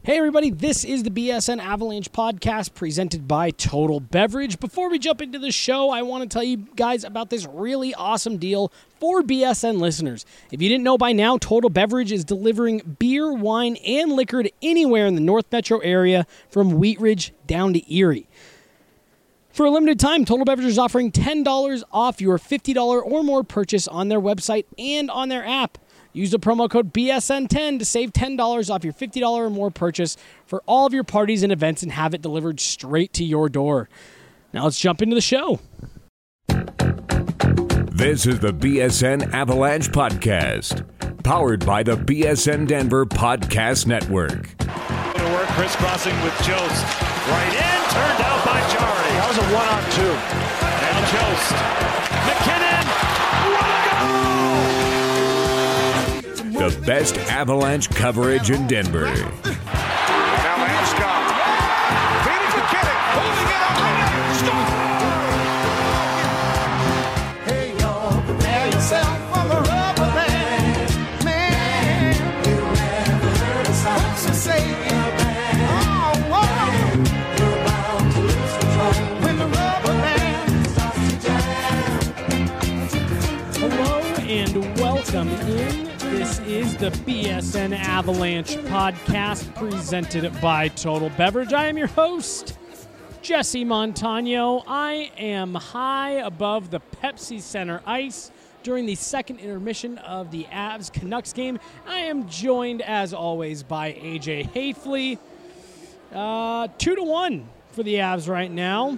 Hey everybody, this is the BSN Avalanche podcast presented by Total Beverage. Before we jump into the show, I want to tell you guys about this really awesome deal for BSN listeners. If you didn't know by now, Total Beverage is delivering beer, wine, and liquor to anywhere in the North Metro area from Wheat Ridge down to Erie. For a limited time, Total Beverage is offering $10 off your $50 or more purchase on their website and on their app. Use the promo code BSN10 to save $10 off your $50 or more purchase for all of your parties and events and have it delivered straight to your door. Now let's jump into the show. This is the BSN Avalanche Podcast, powered by the BSN Denver Podcast Network. To work, crisscrossing with Jost. Right in, turned out by Jarry. That was a 1-on-2. Now Jost. McKinnon. What a goal! The best Avalanche coverage in Denver. Now Landeskog. Feeding McKinnon. Holding it up. Score! Hey, y'all, prepare yourself for the rubber band. Man, you never heard a song to say. Oh, whoa. You're bound to lose control when the rubber band starts to jam. Hello and welcome in. This is the BSN Avalanche podcast presented by Total Beverage. I am your host, Jesse Montano. I am high above the Pepsi Center ice during the second intermission of the Avs-Canucks game. I am joined, as always, by AJ Hafley. 2-1 for the Avs right now.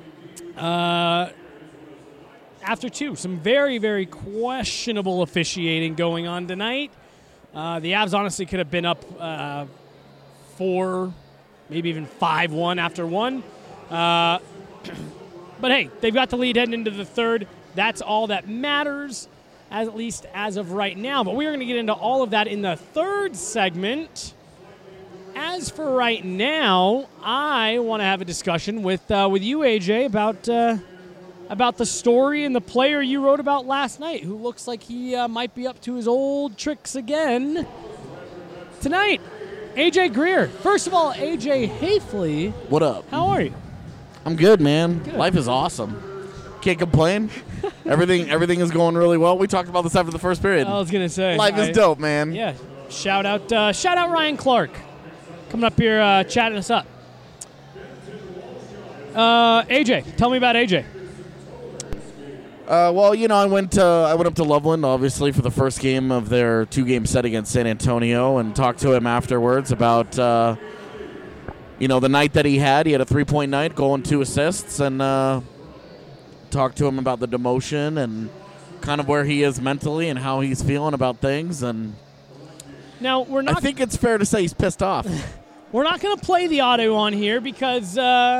After two, some very, very questionable officiating going on tonight. The Avs honestly could have been up 4, maybe even 5-1 after one. But hey, they've got the lead heading into the third. That's all that matters, at least as of right now. But we're going to get into all of that in the third segment. As for right now, I want to have a discussion with you, AJ, about the story and the player you wrote about last night, who looks like he might be up to his old tricks again tonight. AJ Greer. First of all, AJ Hafley. What up? How are you? I'm good, man. Good. Life is awesome. Can't complain. Everything is going really well. We talked about this after the first period. I was gonna say Life is dope, man. Yeah. Shout out Ryan Clark, coming up here chatting us up. AJ, tell me about AJ. Well, you know, I went up to Loveland, obviously, for the first game of their 2-game set against San Antonio, and talked to him afterwards about, the night that he had. He had a 3-point night, goal and 2 assists, and talked to him about the demotion and kind of where he is mentally and how he's feeling about things. And Now I think it's fair to say he's pissed off. We're not going to play the audio on here because,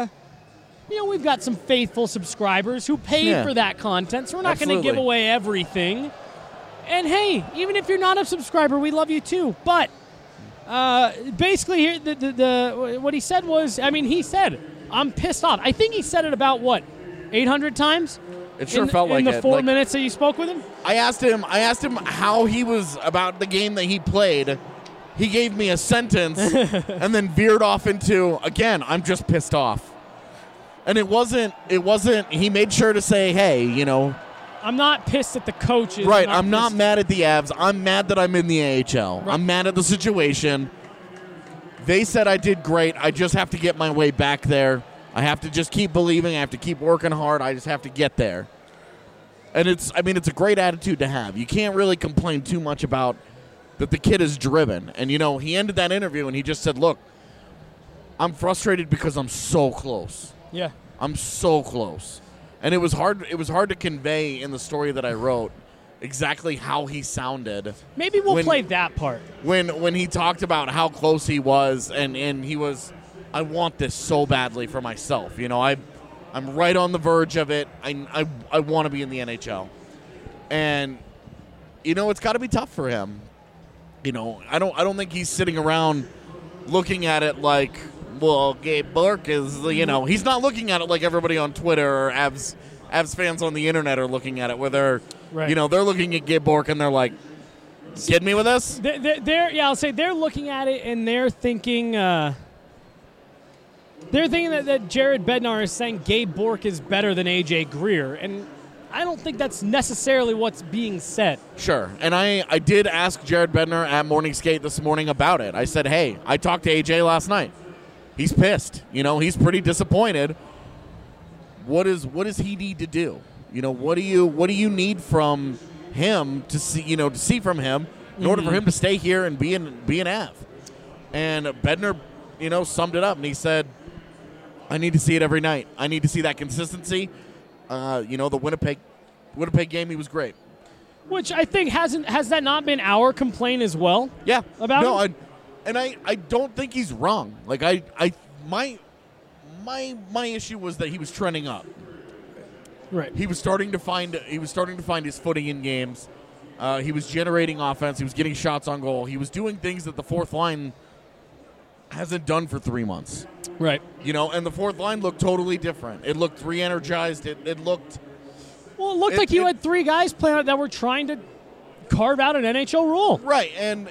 we've got some faithful subscribers who paid for that content, so we're not going to give away everything. And, hey, even if you're not a subscriber, we love you too. But basically here, what he said was, he said, I'm pissed off. I think he said it about, 800 times? It sure felt like in it. the 4 minutes that you spoke with him? I asked him how he was about the game that he played. He gave me a sentence and then veered off into, again, I'm just pissed off. And it wasn't, he made sure to say, hey, I'm not pissed at the coaches. Right, I'm not mad at the Avs. I'm mad that I'm in the AHL. Right. I'm mad at the situation. They said I did great. I just have to get my way back there. I have to just keep believing. I have to keep working hard. I just have to get there. And it's a great attitude to have. You can't really complain too much about that the kid is driven. And, he ended that interview and he just said, look, I'm frustrated because I'm so close. Yeah. I'm so close. And it was hard to convey in the story that I wrote exactly how he sounded. Maybe we'll play that part. When he talked about how close he was and he was, I want this so badly for myself. I'm right on the verge of it. I want to be in the NHL. And it's got to be tough for him. I don't think he's sitting around looking at it like, well, Gabe Bourque is, he's not looking at it like everybody on Twitter or Avs fans on the internet are looking at it, where they're, right. They're looking at Gabe Bourque and they're like, Kidding me with this? I'll say they're looking at it and they're thinking that Jared Bednar is saying Gabe Bork is better than AJ Greer, and I don't think that's necessarily what's being said. Sure. And I did ask Jared Bednar at Morning Skate this morning about it. I said, hey, I talked to AJ last night. He's pissed. He's pretty disappointed. What does he need to do? What do you need from him to see from him in order for him to stay here and be an Av? And Bednar, summed it up and he said, I need to see it every night. I need to see that consistency. The Winnipeg game, he was great. Which I think has that not been our complaint as well? Yeah. About him? I don't think he's wrong. Like my issue was that he was trending up. Right. He was starting to find his footing in games. He was generating offense. He was getting shots on goal. He was doing things that the fourth line hasn't done for 3 months. Right. And the fourth line looked totally different. It looked re-energized. It looked. Well, it looked like you had 3 guys playing that were trying to carve out an NHL role. Right, and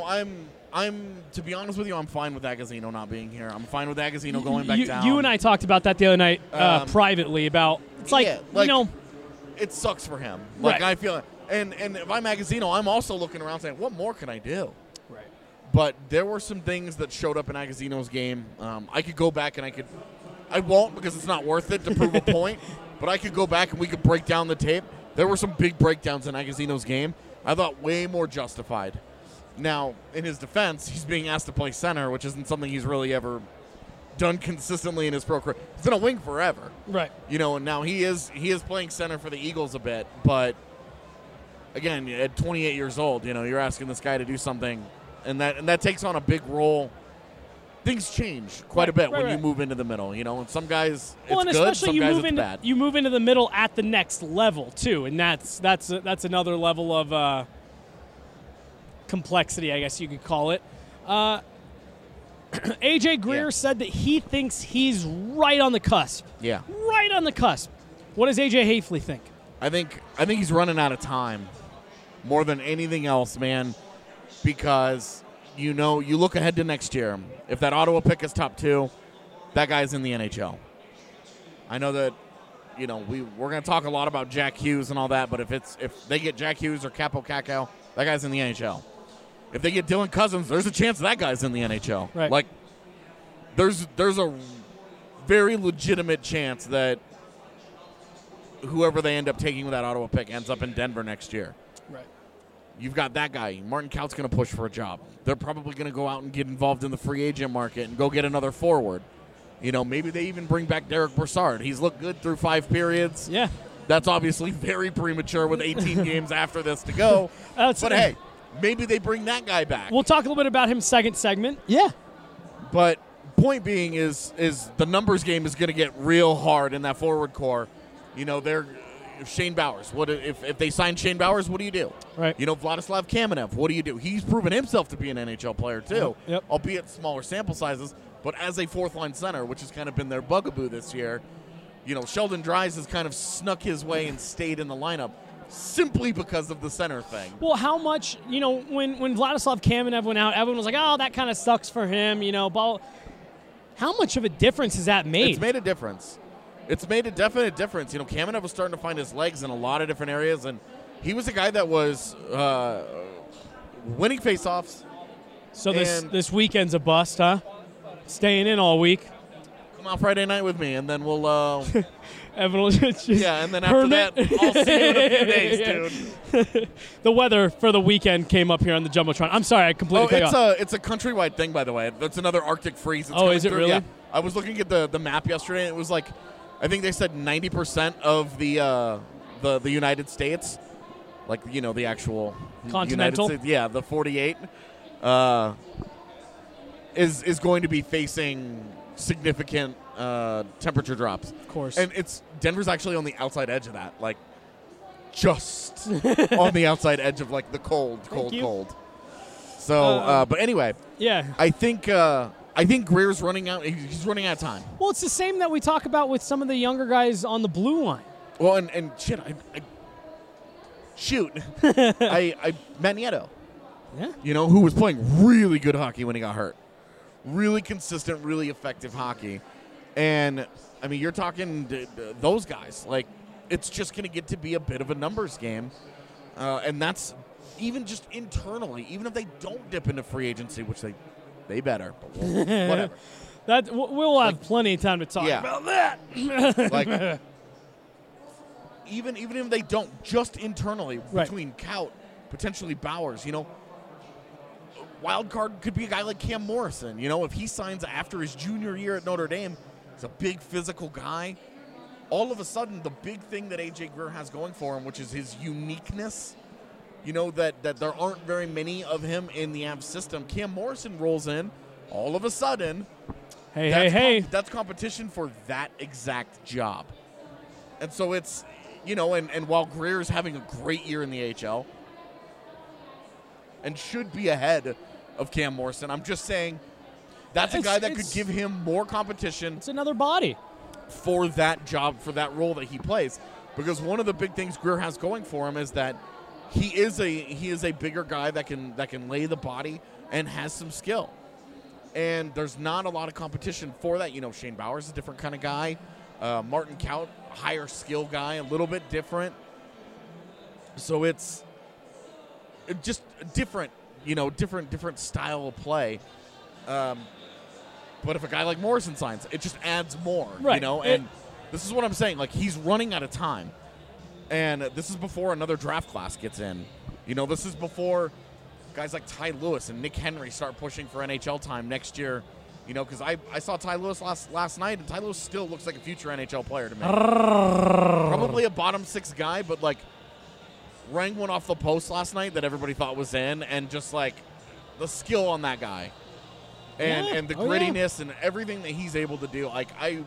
I'm to be honest with you, I'm fine with Agazino not being here. I'm fine with Agazino going back down. You and I talked about that the other night privately about it's like, it sucks for him. Like right. I feel, and if I'm Agazino, I'm also looking around saying, what more can I do? Right. But there were some things that showed up in Agazino's game. I could go back and I won't because it's not worth it to prove a point. But I could go back and we could break down the tape. There were some big breakdowns in Agazino's game. I thought way more justified. Now, in his defense, he's being asked to play center, which isn't something he's really ever done consistently in his pro career. He's been a wing forever. Right. And now he is playing center for the Eagles a bit. But, again, at 28 years old, you're asking this guy to do something. And that takes on a big role. Things change quite a bit when you move into the middle, and some guys it's good, some guys it's bad. You move into the middle at the next level too, and that's another level of complexity, I guess you could call it. AJ Greer said that he thinks he's right on the cusp. Yeah, right on the cusp. What does AJ Hafley think? I think he's running out of time more than anything else, man, because. You look ahead to next year. If that Ottawa pick is top 2, that guy's in the NHL. I know that, we're going to talk a lot about Jack Hughes and all that, but if they get Jack Hughes or Capo Cacao, that guy's in the NHL. If they get Dylan Cousins, there's a chance that guy's in the NHL. Right. Like, there's a very legitimate chance that whoever they end up taking with that Ottawa pick ends up in Denver next year. Right. You've got that guy. Martin Kaut's going to push for a job. They're probably going to go out and get involved in the free agent market and go get another forward. Maybe they even bring back Derek Brassard. He's looked good through 5 periods. Yeah. That's obviously very premature with 18 games after this to go. But, hey, maybe they bring that guy back. We'll talk a little bit about him second segment. Yeah. But point being is the numbers game is going to get real hard in that forward core. They're – Shane Bowers. What if they sign Shane Bowers? What do you do? Right. Vladislav Kamenev. What do you do? He's proven himself to be an NHL player too, yep. Albeit smaller sample sizes. But as a fourth line center, which has kind of been their bugaboo this year, Sheldon Dries has kind of snuck his way and stayed in the lineup simply because of the center thing. Well, how much when Vladislav Kamenev went out, everyone was like, "Oh, that kind of sucks for him," But how much of a difference has that made? It's made a difference. It's made a definite difference. Kamenev was starting to find his legs in a lot of different areas, and he was a guy that was winning faceoffs. So this weekend's a bust, huh? Staying in all week. Come out Friday night with me, and then we'll. Evan will just and then after that, I'll see you in a few days, dude. The weather for the weekend came up here on the Jumbotron. I'm sorry, I completely cut you off. It's a countrywide thing, by the way. That's another Arctic freeze. Oh, is it really? Yeah. I was looking at the map yesterday, and it was like. I think they said 90% of the United States, like the actual continental, United States, the 48, is going to be facing significant temperature drops. Of course, and Denver's actually on the outside edge of that, like just on the outside edge of like the cold. So, but anyway, yeah, I think Greer's running out. He's running out of time. Well, it's the same that we talk about with some of the younger guys on the blue line. Well, and shit, Matt Nieto. Yeah. who was playing really good hockey when he got hurt. Really consistent, really effective hockey. And, I mean, you're talking those guys. Like, it's just going to get to be a bit of a numbers game. And that's even just internally, even if they don't dip into free agency, which they better. But whatever. We'll have plenty of time to talk about that. Like, even if they don't, just internally, between Kaut, potentially Bowers, wild card could be a guy like Cam Morrison. If he signs after his junior year at Notre Dame, he's a big physical guy. All of a sudden, the big thing that A.J. Greer has going for him, which is his uniqueness, that there aren't very many of him in the Avs system. Cam Morrison rolls in. All of a sudden, that's competition for that exact job. And so it's, and while Greer's having a great year in the AHL and should be ahead of Cam Morrison, I'm just saying that's a guy that could give him more competition. It's another body. For that job, for that role that he plays. Because one of the big things Greer has going for him is that he is a bigger guy that can lay the body and has some skill. And there's not a lot of competition for that. Shane Bowers is a different kind of guy. Martin Kaut, higher skill guy, a little bit different. So it's just different, different style of play. But if a guy like Morrison signs, it just adds more, And this is what I'm saying. Like, he's running out of time. And this is before another draft class gets in. This is before guys like Ty Lewis and Nick Henry start pushing for NHL time next year. Because I saw Ty Lewis last night, and Ty Lewis still looks like a future NHL player to me. Probably a bottom six guy, but, like, rang one off the post last night that everybody thought was in, and just, like, the skill on that guy. And the grittiness and everything that he's able to do. Like,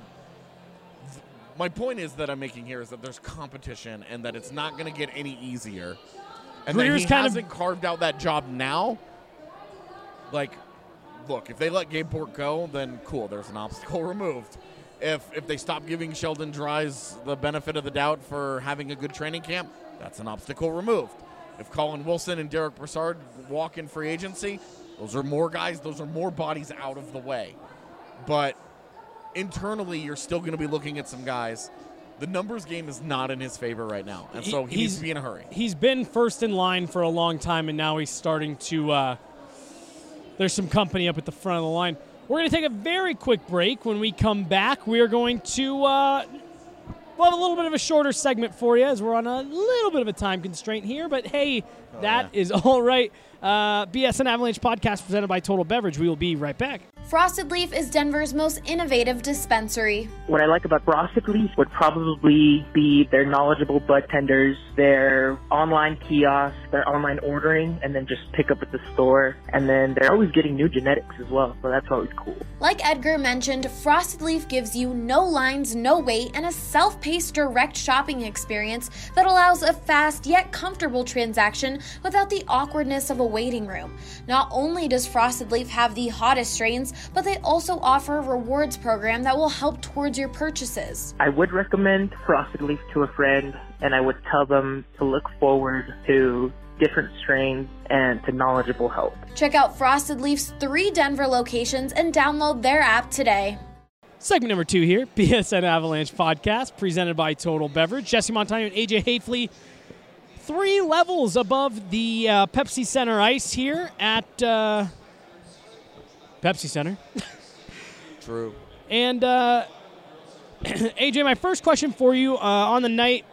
my point is that I'm making here is that there's competition and that it's not going to get any easier. And Greer's that he hasn't carved out that job now. Like, look, if they let Gabe Bourque go, then cool, there's an obstacle removed. If they stop giving Sheldon Dries the benefit of the doubt for having a good training camp, that's an obstacle removed. If Colin Wilson and Derek Brassard walk in free agency, those are more guys, those are more bodies out of the way. But internally, you're still going to be looking at some guys. The numbers game is not in his favor right now, and so he needs to be in a hurry. He's been first in line for a long time, and now he's starting to there's some company up at the front of the line. We're going to take a very quick break. When we come back, we are going to we'll have a little bit of a shorter segment for you as we're on a little bit of a time constraint here, but hey, that is all right. BSN Avalanche podcast presented by Total Beverage. We will be right back. Frosted Leaf is Denver's most innovative dispensary. What I like about Frosted Leaf would probably be their knowledgeable bud tenders, their online kiosk, their online ordering, and then just pick up at the store. And then they're always getting new genetics as well, so that's always cool. Like Edgar mentioned, Frosted Leaf gives you no lines, no wait, and a self-paced direct shopping experience that allows a fast yet comfortable transaction without the awkwardness of a waiting room. Not only does Frosted Leaf have the hottest strains, but they also offer a rewards program that will help towards your purchases. I would recommend Frosted Leaf to a friend, and I would tell them to look forward to different strains and to knowledgeable help. Check out Frosted Leaf's 3 Denver locations and download their app today. Segment number 2 here, BSN Avalanche podcast, presented by Total Beverage. Jesse Montano and AJ Hafley, 3 levels above the Pepsi Center ice here at Pepsi Center. True. And AJ, my first question for you on the night,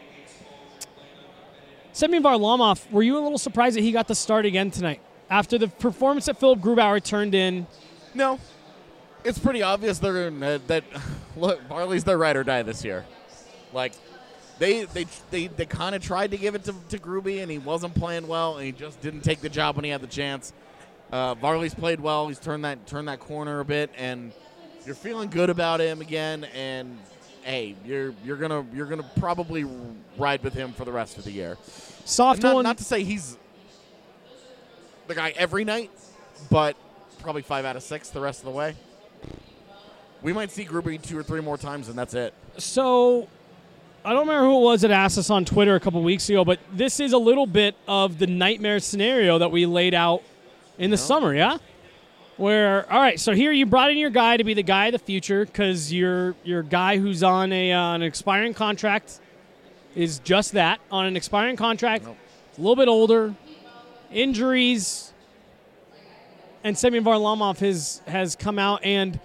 Semyon Varlamov, were you a little surprised that he got the start again tonight after the performance that Philip Grubauer turned in? No. It's pretty obvious that look, Varley's their ride or die this year. Like, they kind of tried to give it to Gruby, and he wasn't playing well, and he just didn't take the job when he had the chance. Varley's played well. He's turned that corner a bit, and you're feeling good about him again. And hey, you're gonna probably ride with him for the rest of the year. Not to say he's the guy every night, but probably 5 out of 6 the rest of the way. We might see Gruby 2 or 3 more times, and that's it. So I don't remember who it was that asked us on Twitter a couple weeks ago, but this is a little bit of the nightmare scenario that we laid out in the summer, yeah? Where, all right, so here you brought in your guy to be the guy of the future because your guy who's on an expiring contract is just that, on an expiring contract, a little bit older, injuries, and Semyon Varlamov has come out, and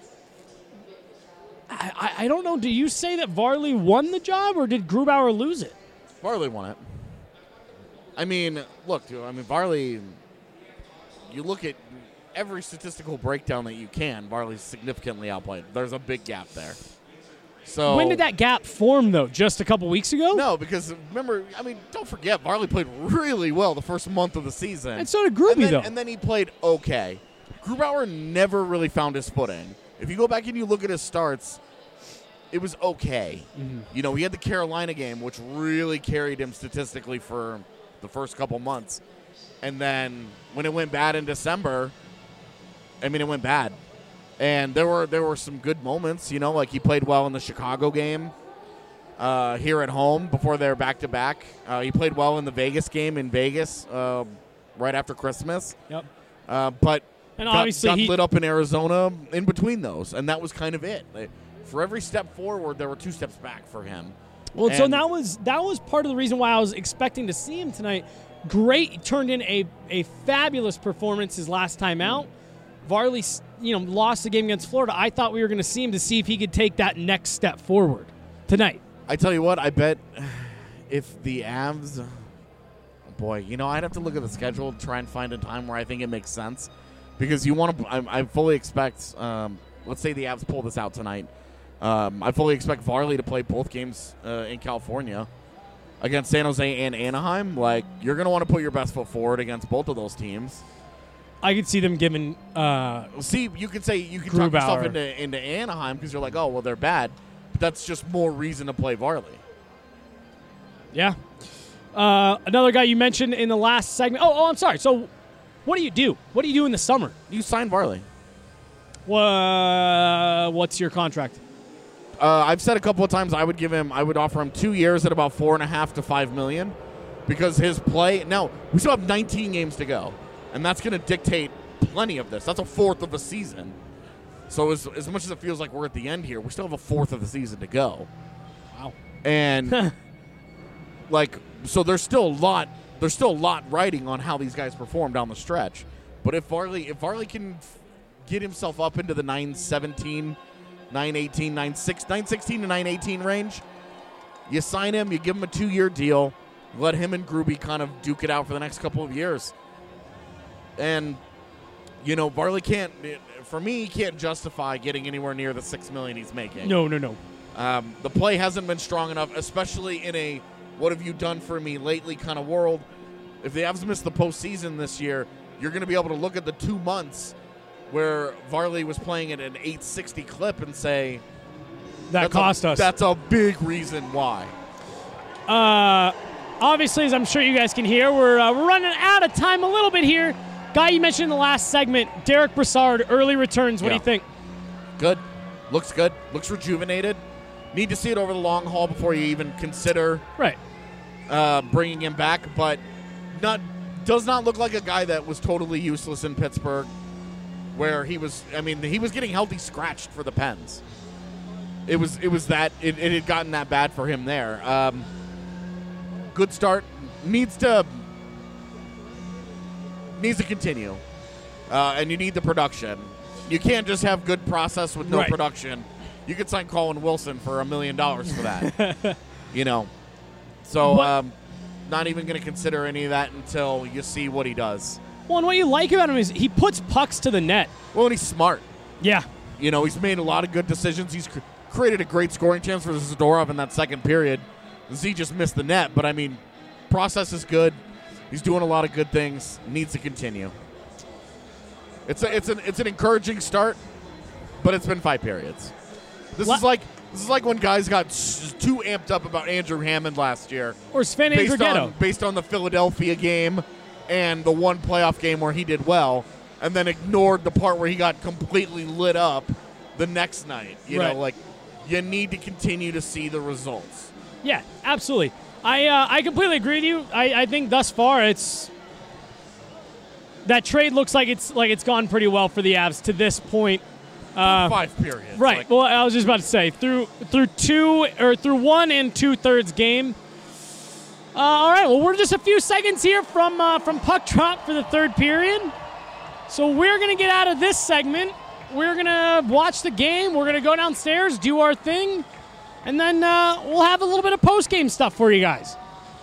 I don't know, do you say that Varley won the job, or did Grubauer lose it? Varley won it. I mean, look, dude, Varley, you look at every statistical breakdown that you can, Varley's significantly outplayed. There's a big gap there. So when did that gap form, though? Just a couple weeks ago? No, because remember, don't forget, Varley played really well the first month of the season. And so did Gruby, though. And then he played okay. Grubauer never really found his footing. If you go back and you look at his starts, it was okay. Mm-hmm. He had the Carolina game, which really carried him statistically for the first couple months. And then when it went bad in December, it went bad. And there were some good moments, like he played well in the Chicago game here at home before they're back-to-back. He played well in the Vegas game in Vegas right after Christmas. Yep. But and obviously got lit up in Arizona in between those, and that was kind of it. For every step forward, there were 2 steps back for him. Well, so that was part of the reason why I was expecting to see him tonight. Great, turned in a fabulous performance his last time out. Varley, lost the game against Florida. I thought we were going to see him to see if he could take that next step forward tonight. I tell you what, I bet if the Avs, I'd have to look at the schedule and try and find a time where I think it makes sense. Because you want to, I fully expect, let's say the Avs pull this out tonight. I fully expect Varley to play both games in California against San Jose and Anaheim. You're going to want to put your best foot forward against both of those teams. I could see them giving. You could say you can talk yourself into Anaheim because you're like, oh well, they're bad, but that's just more reason to play Varley. Yeah. Another guy you mentioned in the last segment. Oh, I'm sorry. So, what do you do? What do you do in the summer? You sign Varley. What's your contract? I've said a couple of times I would offer him 2 years at about $4.5 to $5 million, because his play. Now we still have 19 games to go. And that's going to dictate plenty of this. That's a fourth of a season. So as much as it feels like we're at the end here, we still have a fourth of the season to go. Wow. And so there's still a lot riding on how these guys perform down the stretch. But if Varley can get himself up into the 917, 918, 916 to 918 range, you sign him, you give him a 2-year deal, let him and Gruby kind of duke it out for the next couple of years. And, Varley he can't justify getting anywhere near the $6 million he's making. No. The play hasn't been strong enough, especially in a what have you done for me lately kind of world. If the Avs miss the postseason this year, you're going to be able to look at the 2 months where Varley was playing at an 860 clip and say, that cost us. That's a big reason why. Obviously, as I'm sure you guys can hear, we're running out of time a little bit here. Guy you mentioned in the last segment, Derek Brassard, early returns. What do you think? Good. Looks good. Looks rejuvenated. Need to see it over the long haul before you even consider bringing him back. But does not look like a guy that was totally useless in Pittsburgh, where he was getting healthy scratched for the Pens. It had gotten that bad for him there. Good start. Needs to continue, and you need the production. You can't just have good process with no production. You could sign Colin Wilson for $1 million for that. So not even going to consider any of that until you see what he does. Well, and what you like about him is he puts pucks to the net. Well, and he's smart. Yeah. He's made a lot of good decisions. He's created a great scoring chance for Zadorov in that second period. Z just missed the net, but process is good. He's doing a lot of good things. Needs to continue. It's an encouraging start, but it's been 5 periods. This is like when guys got too amped up about Andrew Hammond last year, or Sven Andrighetto, based on the Philadelphia game and the one playoff game where he did well, and then ignored the part where he got completely lit up the next night. You know, you need to continue to see the results. Yeah, absolutely. I completely agree with you. I think thus far that trade looks like it's gone pretty well for the Avs to this point. 5 periods. Right. Well, I was just about to say through 1 2/3 game. All right. Well, we're just a few seconds here from puck drop for the third period. So we're gonna get out of this segment. We're gonna watch the game. We're gonna go downstairs, do our thing, and then we'll have a little bit of post-game stuff for you guys.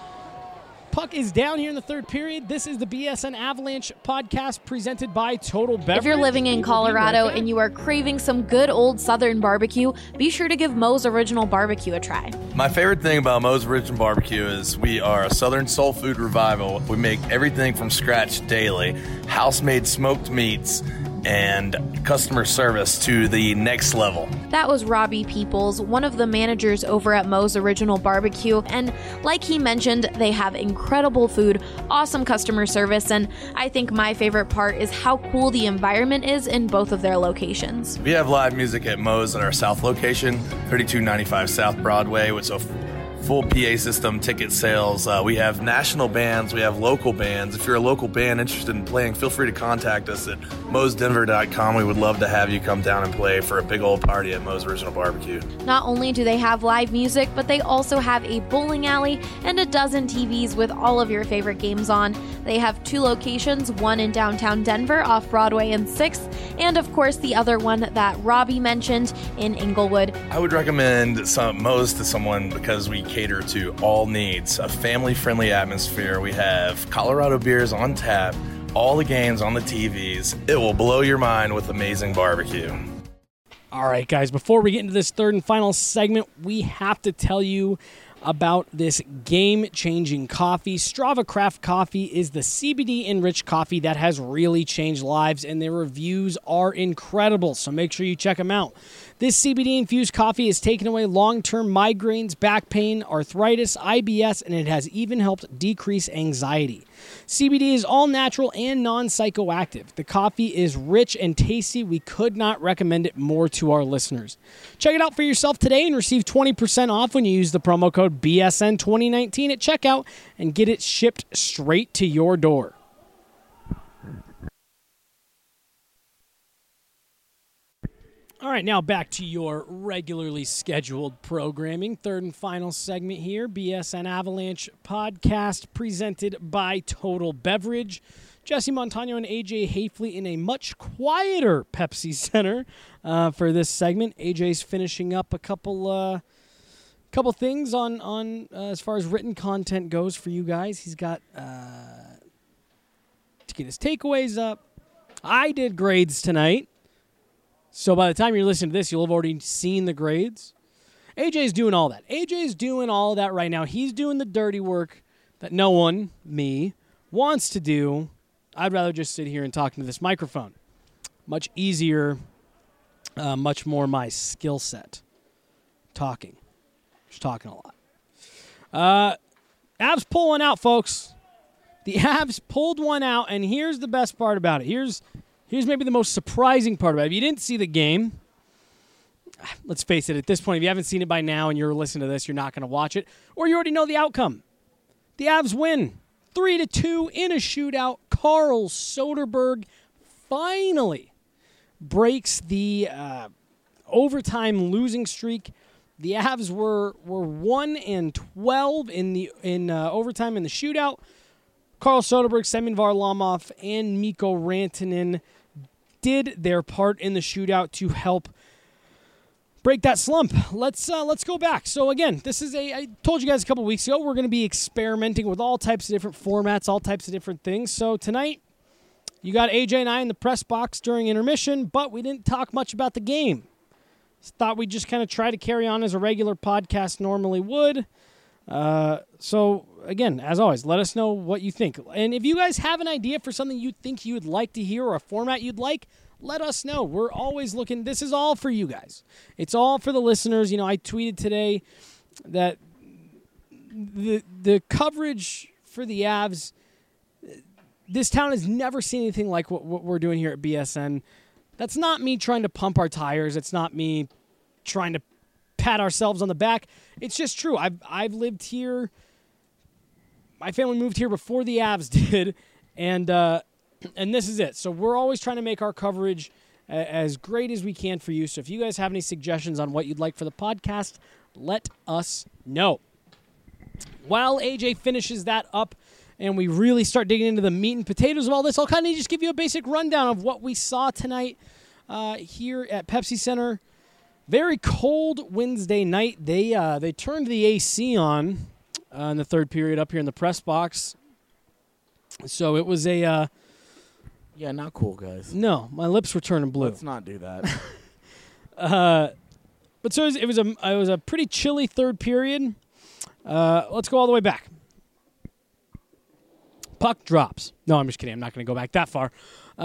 Puck is down here in the third period. This is the BSN Avalanche podcast presented by Total Beverage. If you're living in Colorado and you are craving some good old Southern barbecue, be sure to give Moe's Original Barbecue a try. My favorite thing about Moe's Original Barbecue is we are a Southern soul food revival. We make everything from scratch daily, house-made smoked meats, and customer service to the next level. That was Robbie Peoples, one of the managers over at Moe's Original Barbecue, and like he mentioned, they have incredible food, awesome customer service, and I think my favorite part is how cool the environment is in both of their locations. We have live music at Moe's at our South location, 3295 South Broadway, with a full PA system, ticket sales. We have national bands. We have local bands. If you're a local band interested in playing, feel free to contact us at moesdenver.com. We would love to have you come down and play for a big old party at Moe's Original Barbecue. Not only do they have live music, but they also have a bowling alley and a dozen TVs with all of your favorite games on. They have 2 locations, one in downtown Denver off Broadway and 6th, and of course the other one that Robbie mentioned in Inglewood. I would recommend Moe's to someone because we cater to all needs, a family-friendly atmosphere. We have Colorado beers on tap, all the games on the TVs. It will blow your mind with amazing barbecue. All right, guys, before we get into this third and final segment, we have to tell you about this game-changing coffee. Strava Craft Coffee is the CBD-enriched coffee that has really changed lives, and their reviews are incredible, so make sure you check them out. This CBD-infused coffee has taken away long-term migraines, back pain, arthritis, IBS, and it has even helped decrease anxiety. CBD is all natural and non-psychoactive. The coffee is rich and tasty. We could not recommend it more to our listeners. Check it out for yourself today and receive 20% off when you use the promo code BSN2019 at checkout and get it shipped straight to your door. All right, now back to your regularly scheduled programming. Third and final segment here, BSN Avalanche podcast presented by Total Beverage. Jesse Montano and AJ Hafley in a much quieter Pepsi Center for this segment. AJ's finishing up a couple things on as far as written content goes for you guys. He's got to get his takeaways up. I did grades tonight. So by the time you're listening to this, you'll have already seen the grades. AJ's doing all that. AJ's doing all of that right now. He's doing the dirty work that no one, me, wants to do. I'd rather just sit here and talk into this microphone. Much easier, much more my skill set. Talking. Just talking a lot. Avs pull one out, folks. The Avs pulled one out, and here's the best part about it. Here's maybe the most surprising part about it. If you didn't see the game, let's face it, at this point, if you haven't seen it by now and you're listening to this, you're not going to watch it, or you already know the outcome. The Avs win 3-2 in a shootout. Carl Soderberg finally breaks the overtime losing streak. The Avs were 1-12 in overtime in the shootout. Carl Soderberg, Semyon Varlamov, and Mikko Rantanen did their part in the shootout to help break that slump. Let's go back. So again, I told you guys a couple weeks ago, we're going to be experimenting with all types of different formats, all types of different things. So tonight, you got AJ and I in the press box during intermission, but we didn't talk much about the game. Thought we'd just kind of try to carry on as a regular podcast normally would. So again, as always, let us know what you think. And if you guys have an idea for something you think you would like to hear or a format you'd like, let us know. We're always looking. This is all for you guys. It's all for the listeners. You know, I tweeted today that the coverage for the Avs, this town has never seen anything like what we're doing here at BSN. That's not me trying to pump our tires. It's not me trying to pat ourselves on the back. It's just true. I've lived here. My family moved here before the Avs did, and this is it. So we're always trying to make our coverage as great as we can for you. So if you guys have any suggestions on what you'd like for the podcast, let us know. While AJ finishes that up and we really start digging into the meat and potatoes of all this, I'll kind of just give you a basic rundown of what we saw tonight here at Pepsi Center. Very cold Wednesday night. They turned the AC on in the third period up here in the press box. So it was a... Yeah, not cool, guys. No, my lips were turning blue. Let's not do that. But so it was a pretty chilly third period. Let's go all the way back. Puck drops. No, I'm just kidding. I'm not going to go back that far.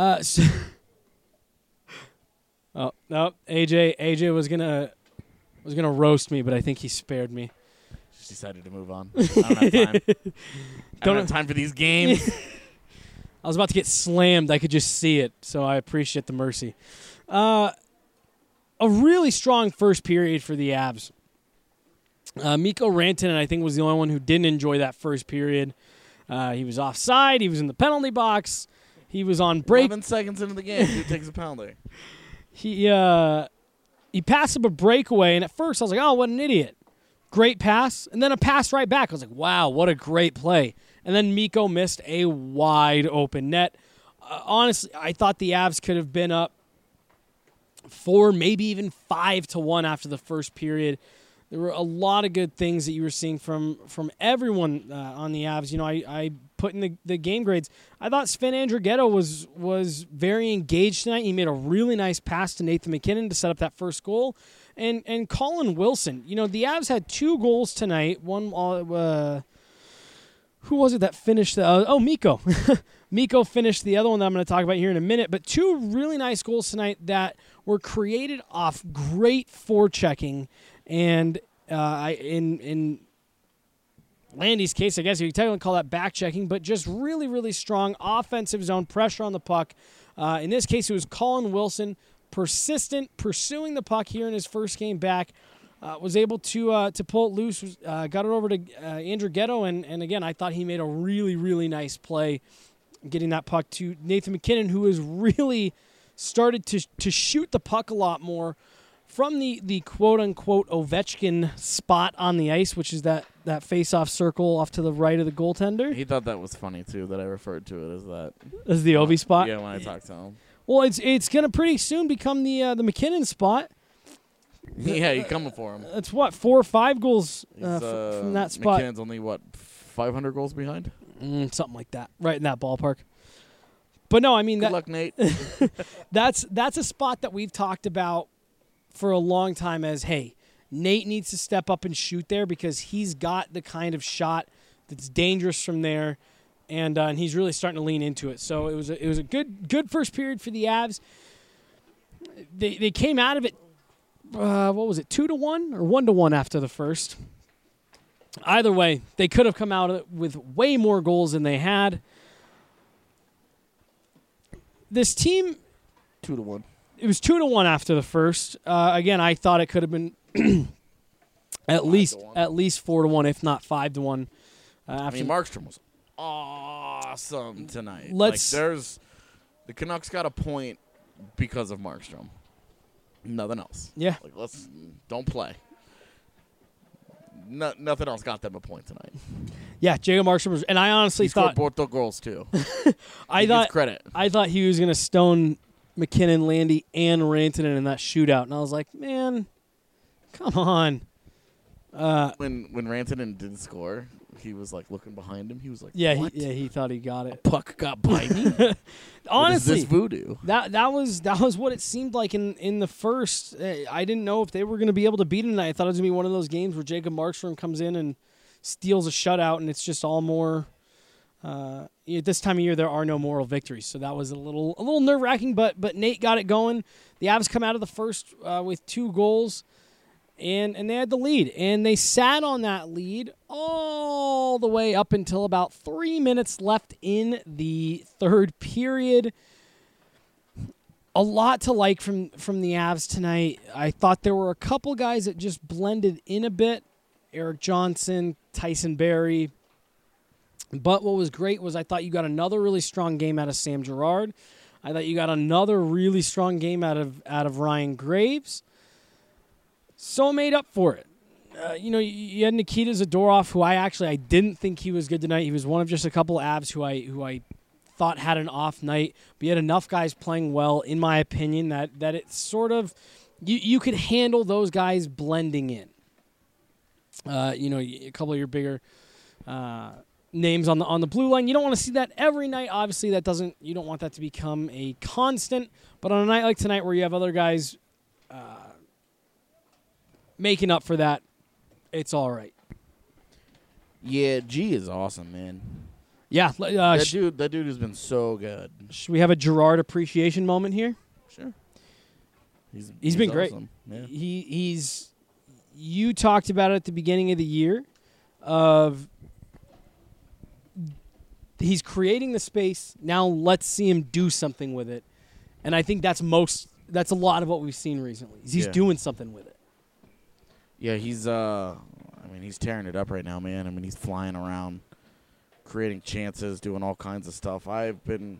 Oh no, AJ was gonna roast me, but I think he spared me. Just decided to move on. I don't have time. I don't have time for these games. I was about to get slammed. I could just see it, so I appreciate the mercy. A really strong first period for the Avs. Mikko Rantanen, I think, was the only one who didn't enjoy that first period. He was offside. He was in the penalty box. He was on break. 11 seconds into the game, who takes a penalty? He passed up a breakaway, and at first I was like, oh, what an idiot. Great pass, and then a pass right back. I was like, wow, what a great play. And then Mikko missed a wide open net. Honestly, I thought the Avs could have been up 4, maybe even 5-1 after the first period. There were a lot of good things that you were seeing from everyone on the Avs. You know, I put in the game grades. I thought Sven Andrighetto was very engaged tonight. He made a really nice pass to Nathan MacKinnon to set up that first goal. And Colin Wilson, you know, the Avs had 2 goals tonight. One, who was it that finished? Mikko. Mikko finished the other one that I'm going to talk about here in a minute. But 2 really nice goals tonight that were created off great forechecking. And in Landy's case, I guess you could technically call that back checking, but just really, really strong offensive zone pressure on the puck. In this case, it was Colin Wilson, persistent, pursuing the puck here in his first game back. Was able to pull it loose, got it over to Andrighetto, and again, I thought he made a really, really nice play getting that puck to Nathan MacKinnon, who has really started to shoot the puck a lot more from the quote-unquote Ovechkin spot on the ice, which is that face-off circle off to the right of the goaltender. He thought that was funny, too, that I referred to it as that. As the Ovi spot? Yeah, when I talked to him. Well, it's going to pretty soon become the MacKinnon spot. Yeah, you're coming for him. That's what, 4 or 5 goals from that spot. McKinnon's only, 500 goals behind? Something like that, right in that ballpark. But no, I mean... Good luck, Nate. That's a spot that we've talked about for a long time as, hey, Nate needs to step up and shoot there because he's got the kind of shot that's dangerous from there, and he's really starting to lean into it. So it was a good first period for the Avs. They came out of it, what was it, 2-1 or 1-1 after the first. Either way, they could have come out of it with way more goals than they had. This team... 2-1. It was 2-1 after the first. Again, I thought it could have been at least 4-1, if not 5-1. Markstrom was awesome tonight. The Canucks got a point because of Markstrom. Nothing else. Yeah. Don't play. Nothing else got them a point tonight. Yeah, Jacob Markstrom was, and I honestly thought both the goals too. I thought credit. I thought he was going to stone MacKinnon, Landy, and Rantanen in that shootout, and I was like, man, come on. When Rantanen didn't score, he was looking behind him. He was like, yeah, what? He thought he got it. Puck got by me. Honestly, what is this voodoo? That was what it seemed like in the first. I didn't know if they were going to be able to beat him tonight. I thought it was going to be one of those games where Jacob Markstrom comes in and steals a shutout, and it's just all more. At this time of year, there are no moral victories, so that was a little nerve-wracking. But Nate got it going. The Avs come out of the first with 2 goals, and they had the lead, and they sat on that lead all the way up until about 3 minutes left in the third period. a lot to like from the Avs tonight. I thought there were a couple guys that just blended in a bit. Eric Johnson, Tyson Barrie. But what was great was I thought you got another really strong game out of Sam Girard. I thought you got another really strong game out of Ryan Graves. So made up for it. You had Nikita Zadorov, who I didn't think he was good tonight. He was one of just a couple of Avs who I thought had an off night. But you had enough guys playing well, in my opinion, that it's sort of you could handle those guys blending in. A couple of your bigger names on the blue line. You don't want to see that every night. Obviously, you don't want that to become a constant. But on a night like tonight, where you have other guys making up for that, it's all right. Yeah, G is awesome, man. Yeah, that dude has been so good. Should we have a Girard appreciation moment here? Sure. He's been awesome. Great. Yeah. You talked about it at the beginning of the year of he's creating the space. Now let's see him do something with it. And I think that's a lot of what we've seen recently. He's doing something with it. Yeah, he's tearing it up right now, man. I mean, he's flying around, creating chances, doing all kinds of stuff. I've been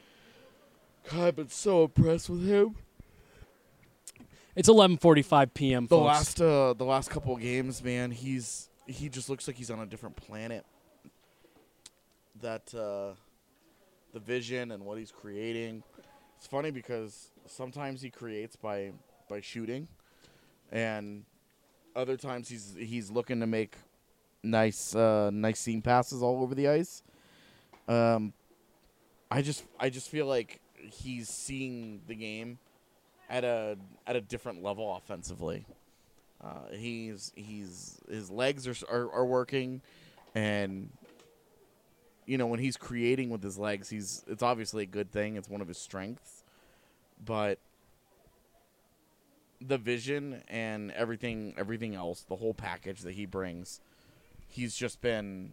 so impressed with him. It's 11:45 p.m. folks. The last couple of games, man, he just looks like he's on a different planet. That the vision and what he's creating. It's funny because sometimes he creates by shooting, and other times he's looking to make nice seam passes all over the ice. I just feel like he's seeing the game at a different level offensively. His legs are working, and when he's creating with his legs, it's obviously a good thing. It's one of his strengths, but the vision and everything else, the whole package that he brings, he's just been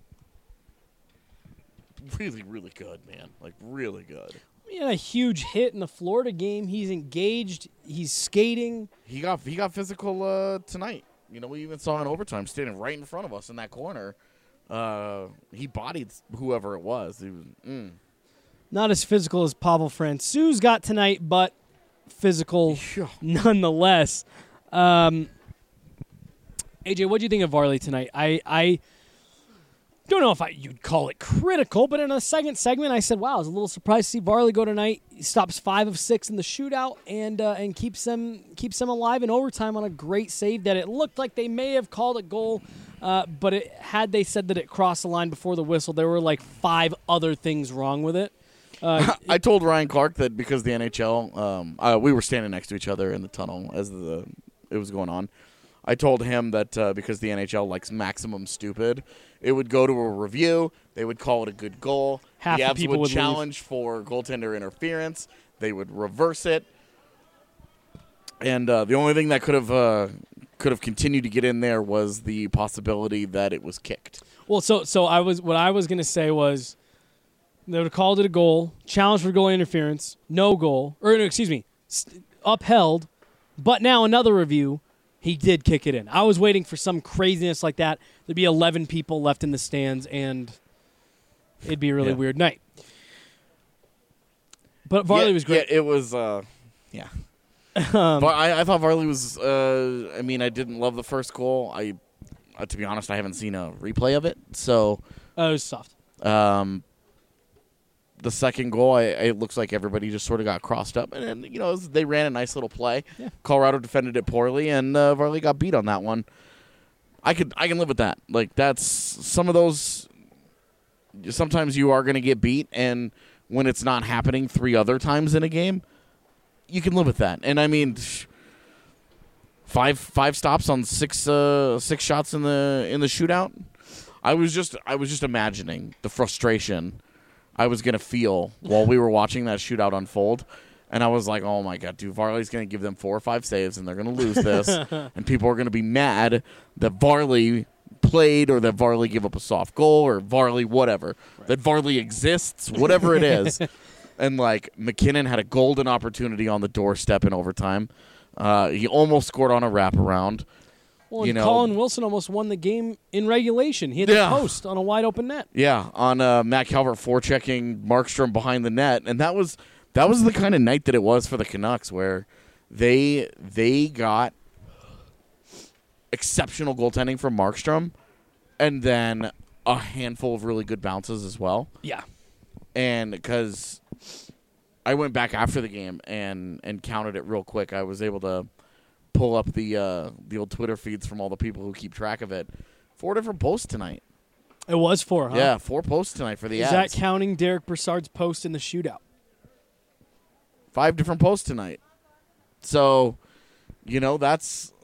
really, really good, man. Like, really good. He had a huge hit in the Florida game. He's engaged. He's skating. He got physical tonight. We even saw in overtime, standing right in front of us in that corner. He bodied whoever it was. He was not as physical as Pavel Francouz got tonight, but physical nonetheless. AJ, what do you think of Varley tonight? I don't know if you'd call it critical, but in a second segment, I said, wow, I was a little surprised to see Varley go tonight. He stops 5 of 6 in the shootout and keeps them alive in overtime on a great save that it looked like they may have called a goal, but had they said that it crossed the line before the whistle, there were like 5 other things wrong with it. I told Ryan Clark that because the NHL, we were standing next to each other in the tunnel as it was going on. I told him that because the NHL likes maximum stupid, it would go to a review. They would call it a good goal. Half the the Avs people would challenge for goaltender interference. They would reverse it. And the only thing that could have continued to get in there was the possibility that it was kicked. Well, so what I was going to say was they would have called it a goal, challenge for goal interference, no goal, upheld, but now another review. He did kick it in. I was waiting for some craziness like that. There'd be 11 people left in the stands, and it'd be a really weird night. But Varley was great. Yeah, it was, but I thought Varley was, I didn't love the first goal. To be honest, I haven't seen a replay of it. So it was soft. The second goal, it looks like everybody just sort of got crossed up. And they ran a nice little play. Yeah. Colorado defended it poorly, and Varley got beat on that one. I can live with that. Like, that's some of those. Sometimes you are going to get beat, and when it's not happening 3 other times in a game, you can live with that. And, five stops on 6 shots in the shootout. I was just imagining the frustration I was going to feel while we were watching that shootout unfold. And I was like, oh, my God, dude, Varley's going to give them 4 or 5 saves, and they're going to lose this. And people are going to be mad that Varley played or that Varley gave up a soft goal or Varley whatever. Right. That Varley exists, whatever it is. And, like, McKinnon had a golden opportunity on the doorstep in overtime. He almost scored on a wraparound. Well, and Colin Wilson almost won the game in regulation. He hit the post on a wide-open net. Yeah, on Matt Calvert forechecking Markstrom behind the net. And that was the kind of night that it was for the Canucks, where they got exceptional goaltending from Markstrom and then a handful of really good bounces as well. Yeah. And because I went back after the game and counted it real quick, I was able to pull up the old Twitter feeds from all the people who keep track of it. 4 different posts tonight. It was 4, huh? Yeah, 4 posts tonight for the Avs. Is that counting Derek Brassard's post in the shootout? 5 different posts tonight. So, that's...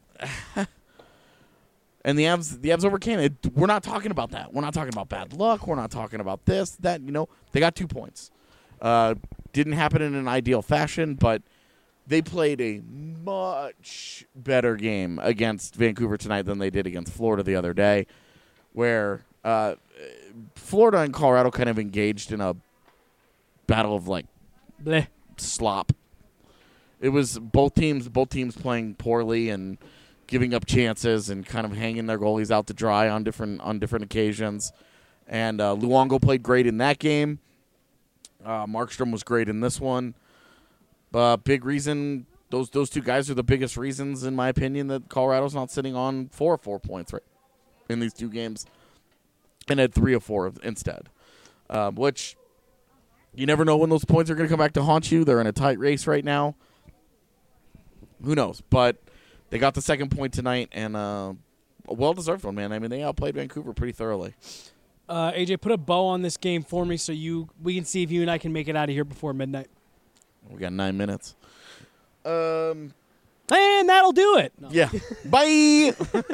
And the Avs overcame it. We're not talking about that. We're not talking about bad luck. We're not talking about this, that. They got 2 points. Didn't happen in an ideal fashion, but they played a much better game against Vancouver tonight than they did against Florida the other day, where Florida and Colorado kind of engaged in a battle of, like, bleh, slop. It was both teams playing poorly and giving up chances and kind of hanging their goalies out to dry on different occasions. And Luongo played great in that game. Markstrom was great in this one. Big reason, those 2 guys are the biggest reasons, in my opinion, that Colorado's not sitting on 4 points right in these 2 games and had 3 of 4 instead. Which you never know when those points are going to come back to haunt you. They're in a tight race right now. Who knows? But they got the second point tonight, and a well-deserved one, man. I mean, they outplayed Vancouver pretty thoroughly. AJ, put a bow on this game for me so we can see if you and I can make it out of here before midnight. We got 9 minutes. And that'll do it. No. Yeah. Bye!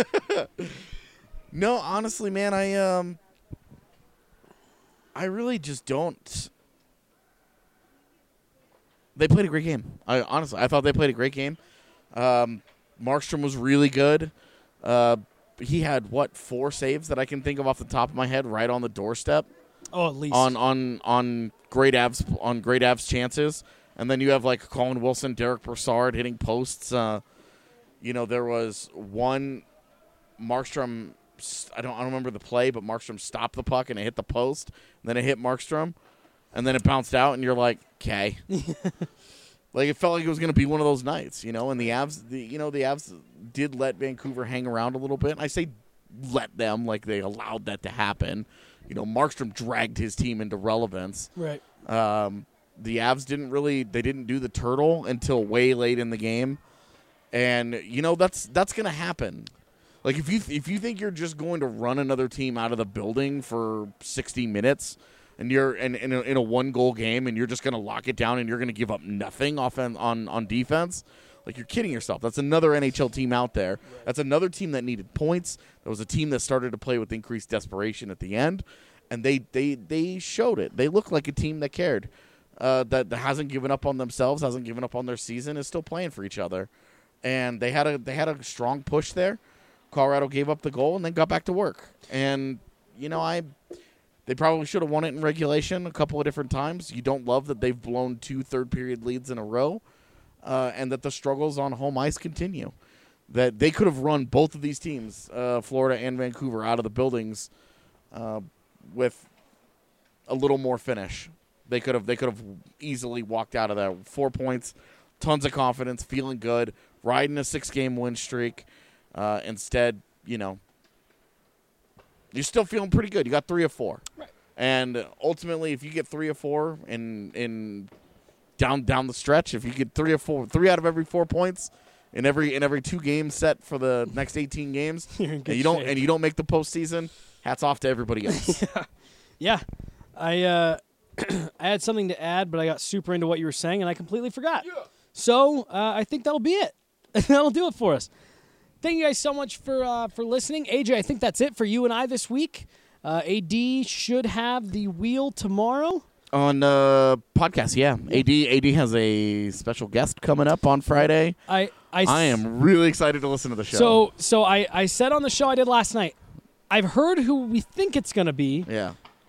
No, honestly, man, I really just don't. They played a great game. I thought they played a great game. Markstrom was really good. He had 4 saves that I can think of off the top of my head, right on the doorstep. Oh, at least on great Avs chances, and then you have like Colin Wilson, Derek Brassard hitting posts. There was one Markstrom. I don't remember the play, but Markstrom stopped the puck and it hit the post. And then it hit Markstrom, and then it bounced out, and you're like, okay. Like, it felt like it was going to be one of those nights, and the Avs, the Avs did let Vancouver hang around a little bit. I say let them, like they allowed that to happen. Markstrom dragged his team into relevance. Right. The Avs didn't do the turtle until way late in the game. And, that's going to happen. Like, if you think you're just going to run another team out of the building for 60 minutes and you're in a 1-goal game and you're just going to lock it down and you're going to give up nothing on defense, like, you're kidding yourself. That's another NHL team out there. Right. That's another team that needed points. That was a team that started to play with increased desperation at the end, and they showed it. They look like a team that cared, that hasn't given up on themselves, hasn't given up on their season, is still playing for each other. And they had a strong push there. Colorado gave up the goal and then got back to work. And, they probably should have won it in regulation a couple of different times. You don't love that they've blown 2 third-period leads in a row, and that the struggles on home ice continue. That they could have run both of these teams, Florida and Vancouver, out of the buildings with a little more finish. They could have easily walked out of there. 4 points, tons of confidence, feeling good, riding a 6-game win streak. Instead, you're still feeling pretty good. You got 3 of 4. Right. And ultimately, if you get 3 of 4 in down the stretch, if you get 3 out of every 4 points in every 2 games set for the next 18 games, and you don't make the postseason, hats off to everybody else. Yeah. I had something to add, but I got super into what you were saying, and I completely forgot. Yeah. So I think that'll be it. That'll do it for us. Thank you guys so much for listening. AJ, I think that's it for you and I this week. AD should have the wheel tomorrow. On podcast, yeah. AD has a special guest coming up on Friday. I am really excited to listen to the show. So I said on the show I did last night, I've heard who we think it's going to be. Yeah.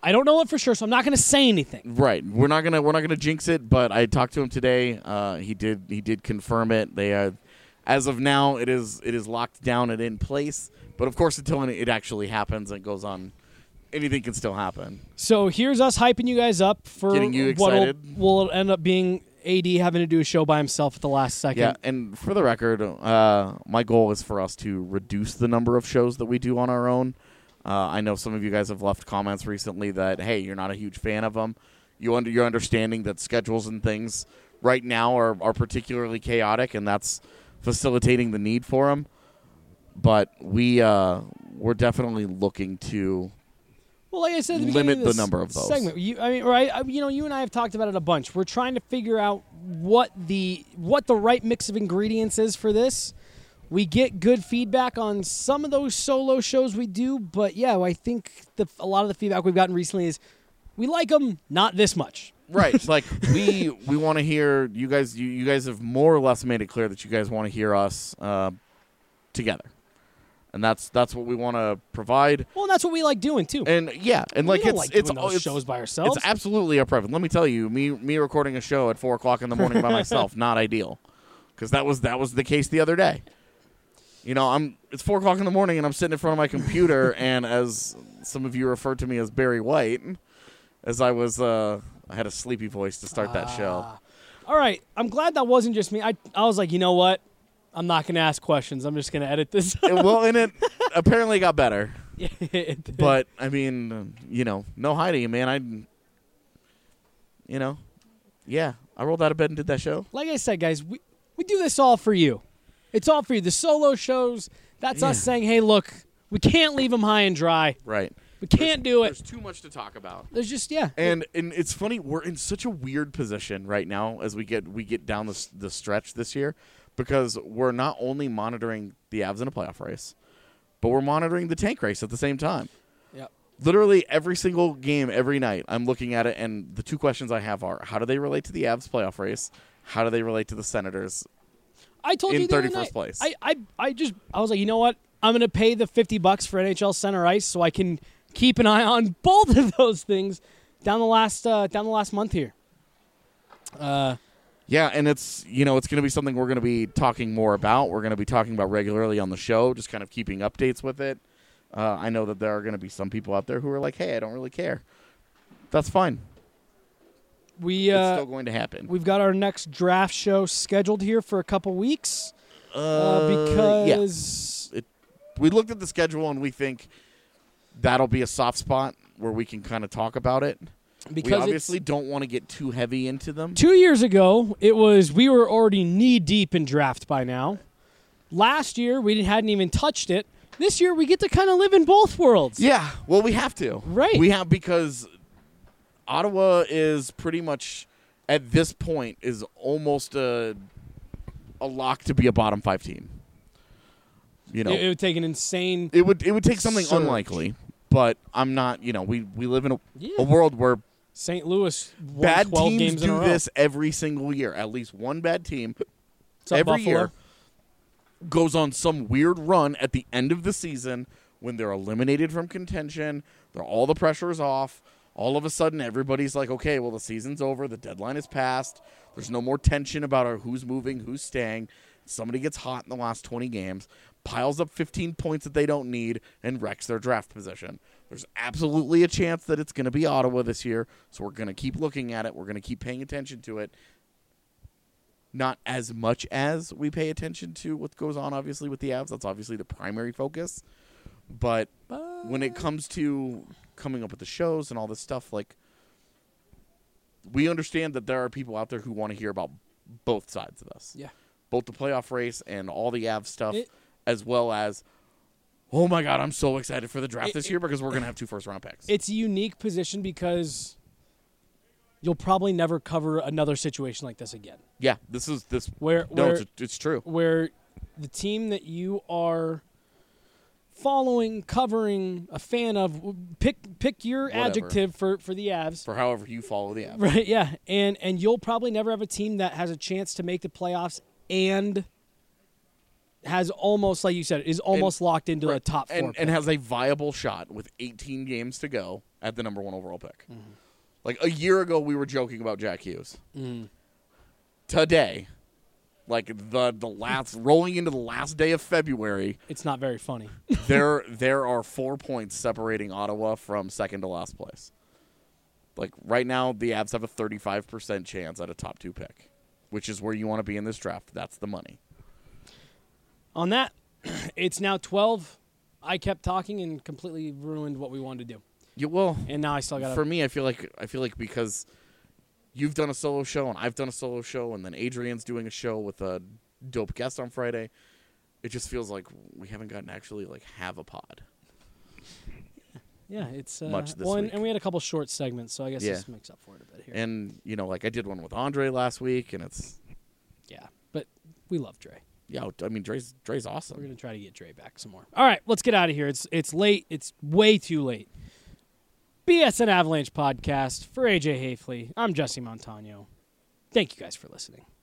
I don't know it for sure, so I'm not going to say anything. Right. We're not gonna jinx it, but I talked to him today. He did confirm it. They as of now, it is locked down and in place. But of course, until it actually happens and goes on, anything can still happen. So here's us hyping you guys up for Getting you what excited. will end up being AD having to do a show by himself at the last second. Yeah, and for the record, my goal is for us to reduce the number of shows that we do on our own. I know some of you guys have left comments recently that, hey, you're not a huge fan of them. You're understanding that schedules and things right now are particularly chaotic, and that's facilitating the need for them. But we're definitely looking to Well, like I said, at the limit beginning of this the number of those. segment. You and I have talked about it a bunch. We're trying to figure out what the right mix of ingredients is for this. We get good feedback on some of those solo shows we do, but yeah, I think a lot of the feedback we've gotten recently is we like them, not this much. Right. Like we want to hear you guys. You guys have more or less made it clear that you guys want to hear us together, and that's what we want to provide. Well, that's what we like doing too. And yeah, and we like don't it's doing those shows by ourselves. It's absolutely a preference. Let me tell you, me recording a show at 4:00 in the morning by myself, not ideal, because that was the case the other day. You know, it's 4:00 in the morning, and I'm sitting in front of my computer, and as some of you referred to me as Barry White, as I was, I had a sleepy voice to start that show. All right, I'm glad that wasn't just me. I was like, you know what? I'm not going to ask questions. I'm just going to edit this. And it apparently got better. Yeah, it did. But, I mean, no hiding, man. I rolled out of bed and did that show. Like I said, guys, we do this all for you. It's all for you. The solo shows, that's us saying, hey, look, we can't leave them high and dry. Right. We can't do it. There's too much to talk about. There's just, yeah. And it's funny, we're in such a weird position right now as we get down the stretch this year, because we're not only monitoring the Avs in a playoff race, but we're monitoring the tank race at the same time. Yep. Literally every single game, every night, I'm looking at it, and the two questions I have are, how do they relate to the Avs playoff race? How do they relate to the Senators? I told in you the other 31st night, place. I was like, you know what? I'm going to pay the $50 for NHL Center Ice so I can keep an eye on both of those things down the last month here. Yeah, and it's going to be something we're going to be talking more about. We're going to be talking about regularly on the show, just kind of keeping updates with it. I know that there are going to be some people out there who are like, hey, I don't really care. That's fine. It's still going to happen. We've got our next draft show scheduled here for a couple weeks because we looked at the schedule and we think that'll be a soft spot where we can kind of talk about it. Because we obviously don't want to get too heavy into them. 2 years ago, we were already knee deep in draft by now. Last year, we hadn't even touched it. This year, we get to kind of live in both worlds. Yeah, well, we have to. Right. We have, because Ottawa is pretty much, at this point, is almost a lock to be a bottom 5 team. It would take an insane. It would take something surge. unlikely, but I'm not. We live in a world where St. Louis won bad 12 teams games in a do row. this every single year. At least one bad team What's up, every Buffalo? year goes on some weird run at the end of the season when they're eliminated from contention. All the pressure is off. All of a sudden, everybody's like, okay, well, the season's over. The deadline is passed. There's no more tension about who's moving, who's staying. Somebody gets hot in the last 20 games, piles up 15 points that they don't need, and wrecks their draft position. There's absolutely a chance that it's going to be Ottawa this year, so we're going to keep looking at it. We're going to keep paying attention to it. Not as much as we pay attention to what goes on, obviously, with the Avs. That's obviously the primary focus. But when it comes to coming up with the shows and all this stuff, like, we understand that there are people out there who want to hear about both sides of this. Yeah. Both the playoff race and all the Avs stuff, as well as, oh my God, I'm so excited for the draft this year because we're going to have 2 first-round picks. It's a unique position because you'll probably never cover another situation like this again. Yeah, it's true. Where the team that you are following, covering, a fan of, pick your adjective for the Avs. For however you follow the Avs. Right, yeah. And you'll probably never have a team that has a chance to make the playoffs and has almost, like you said, is almost locked into a top 4 and has a viable shot with 18 games to go at the number 1 overall pick. Mm-hmm. Like a year ago, we were joking about Jack Hughes. Mm. Today, like the last rolling into the last day of February, it's not very funny. there are 4 points separating Ottawa from second to last place. Like right now, the Avs have a 35% chance at a top 2 pick, which is where you want to be in this draft. That's the money. On that, it's now 12. I kept talking and completely ruined what we wanted to do. Yeah, well, and now I still got. For me, I feel like because you've done a solo show and I've done a solo show, and then Adrian's doing a show with a dope guest on Friday, it just feels like we haven't gotten to actually like have a pod. Yeah, it's much this week. And we had a couple short segments, so I guess this makes up for it a bit here. And like I did one with Andre last week, and it's but we love Dre. Yeah, I mean Dre's awesome. We're gonna try to get Dre back some more. All right, let's get out of here. It's late. It's way too late. BSN Avalanche podcast for AJ Hafley. I'm Jesse Montano. Thank you guys for listening.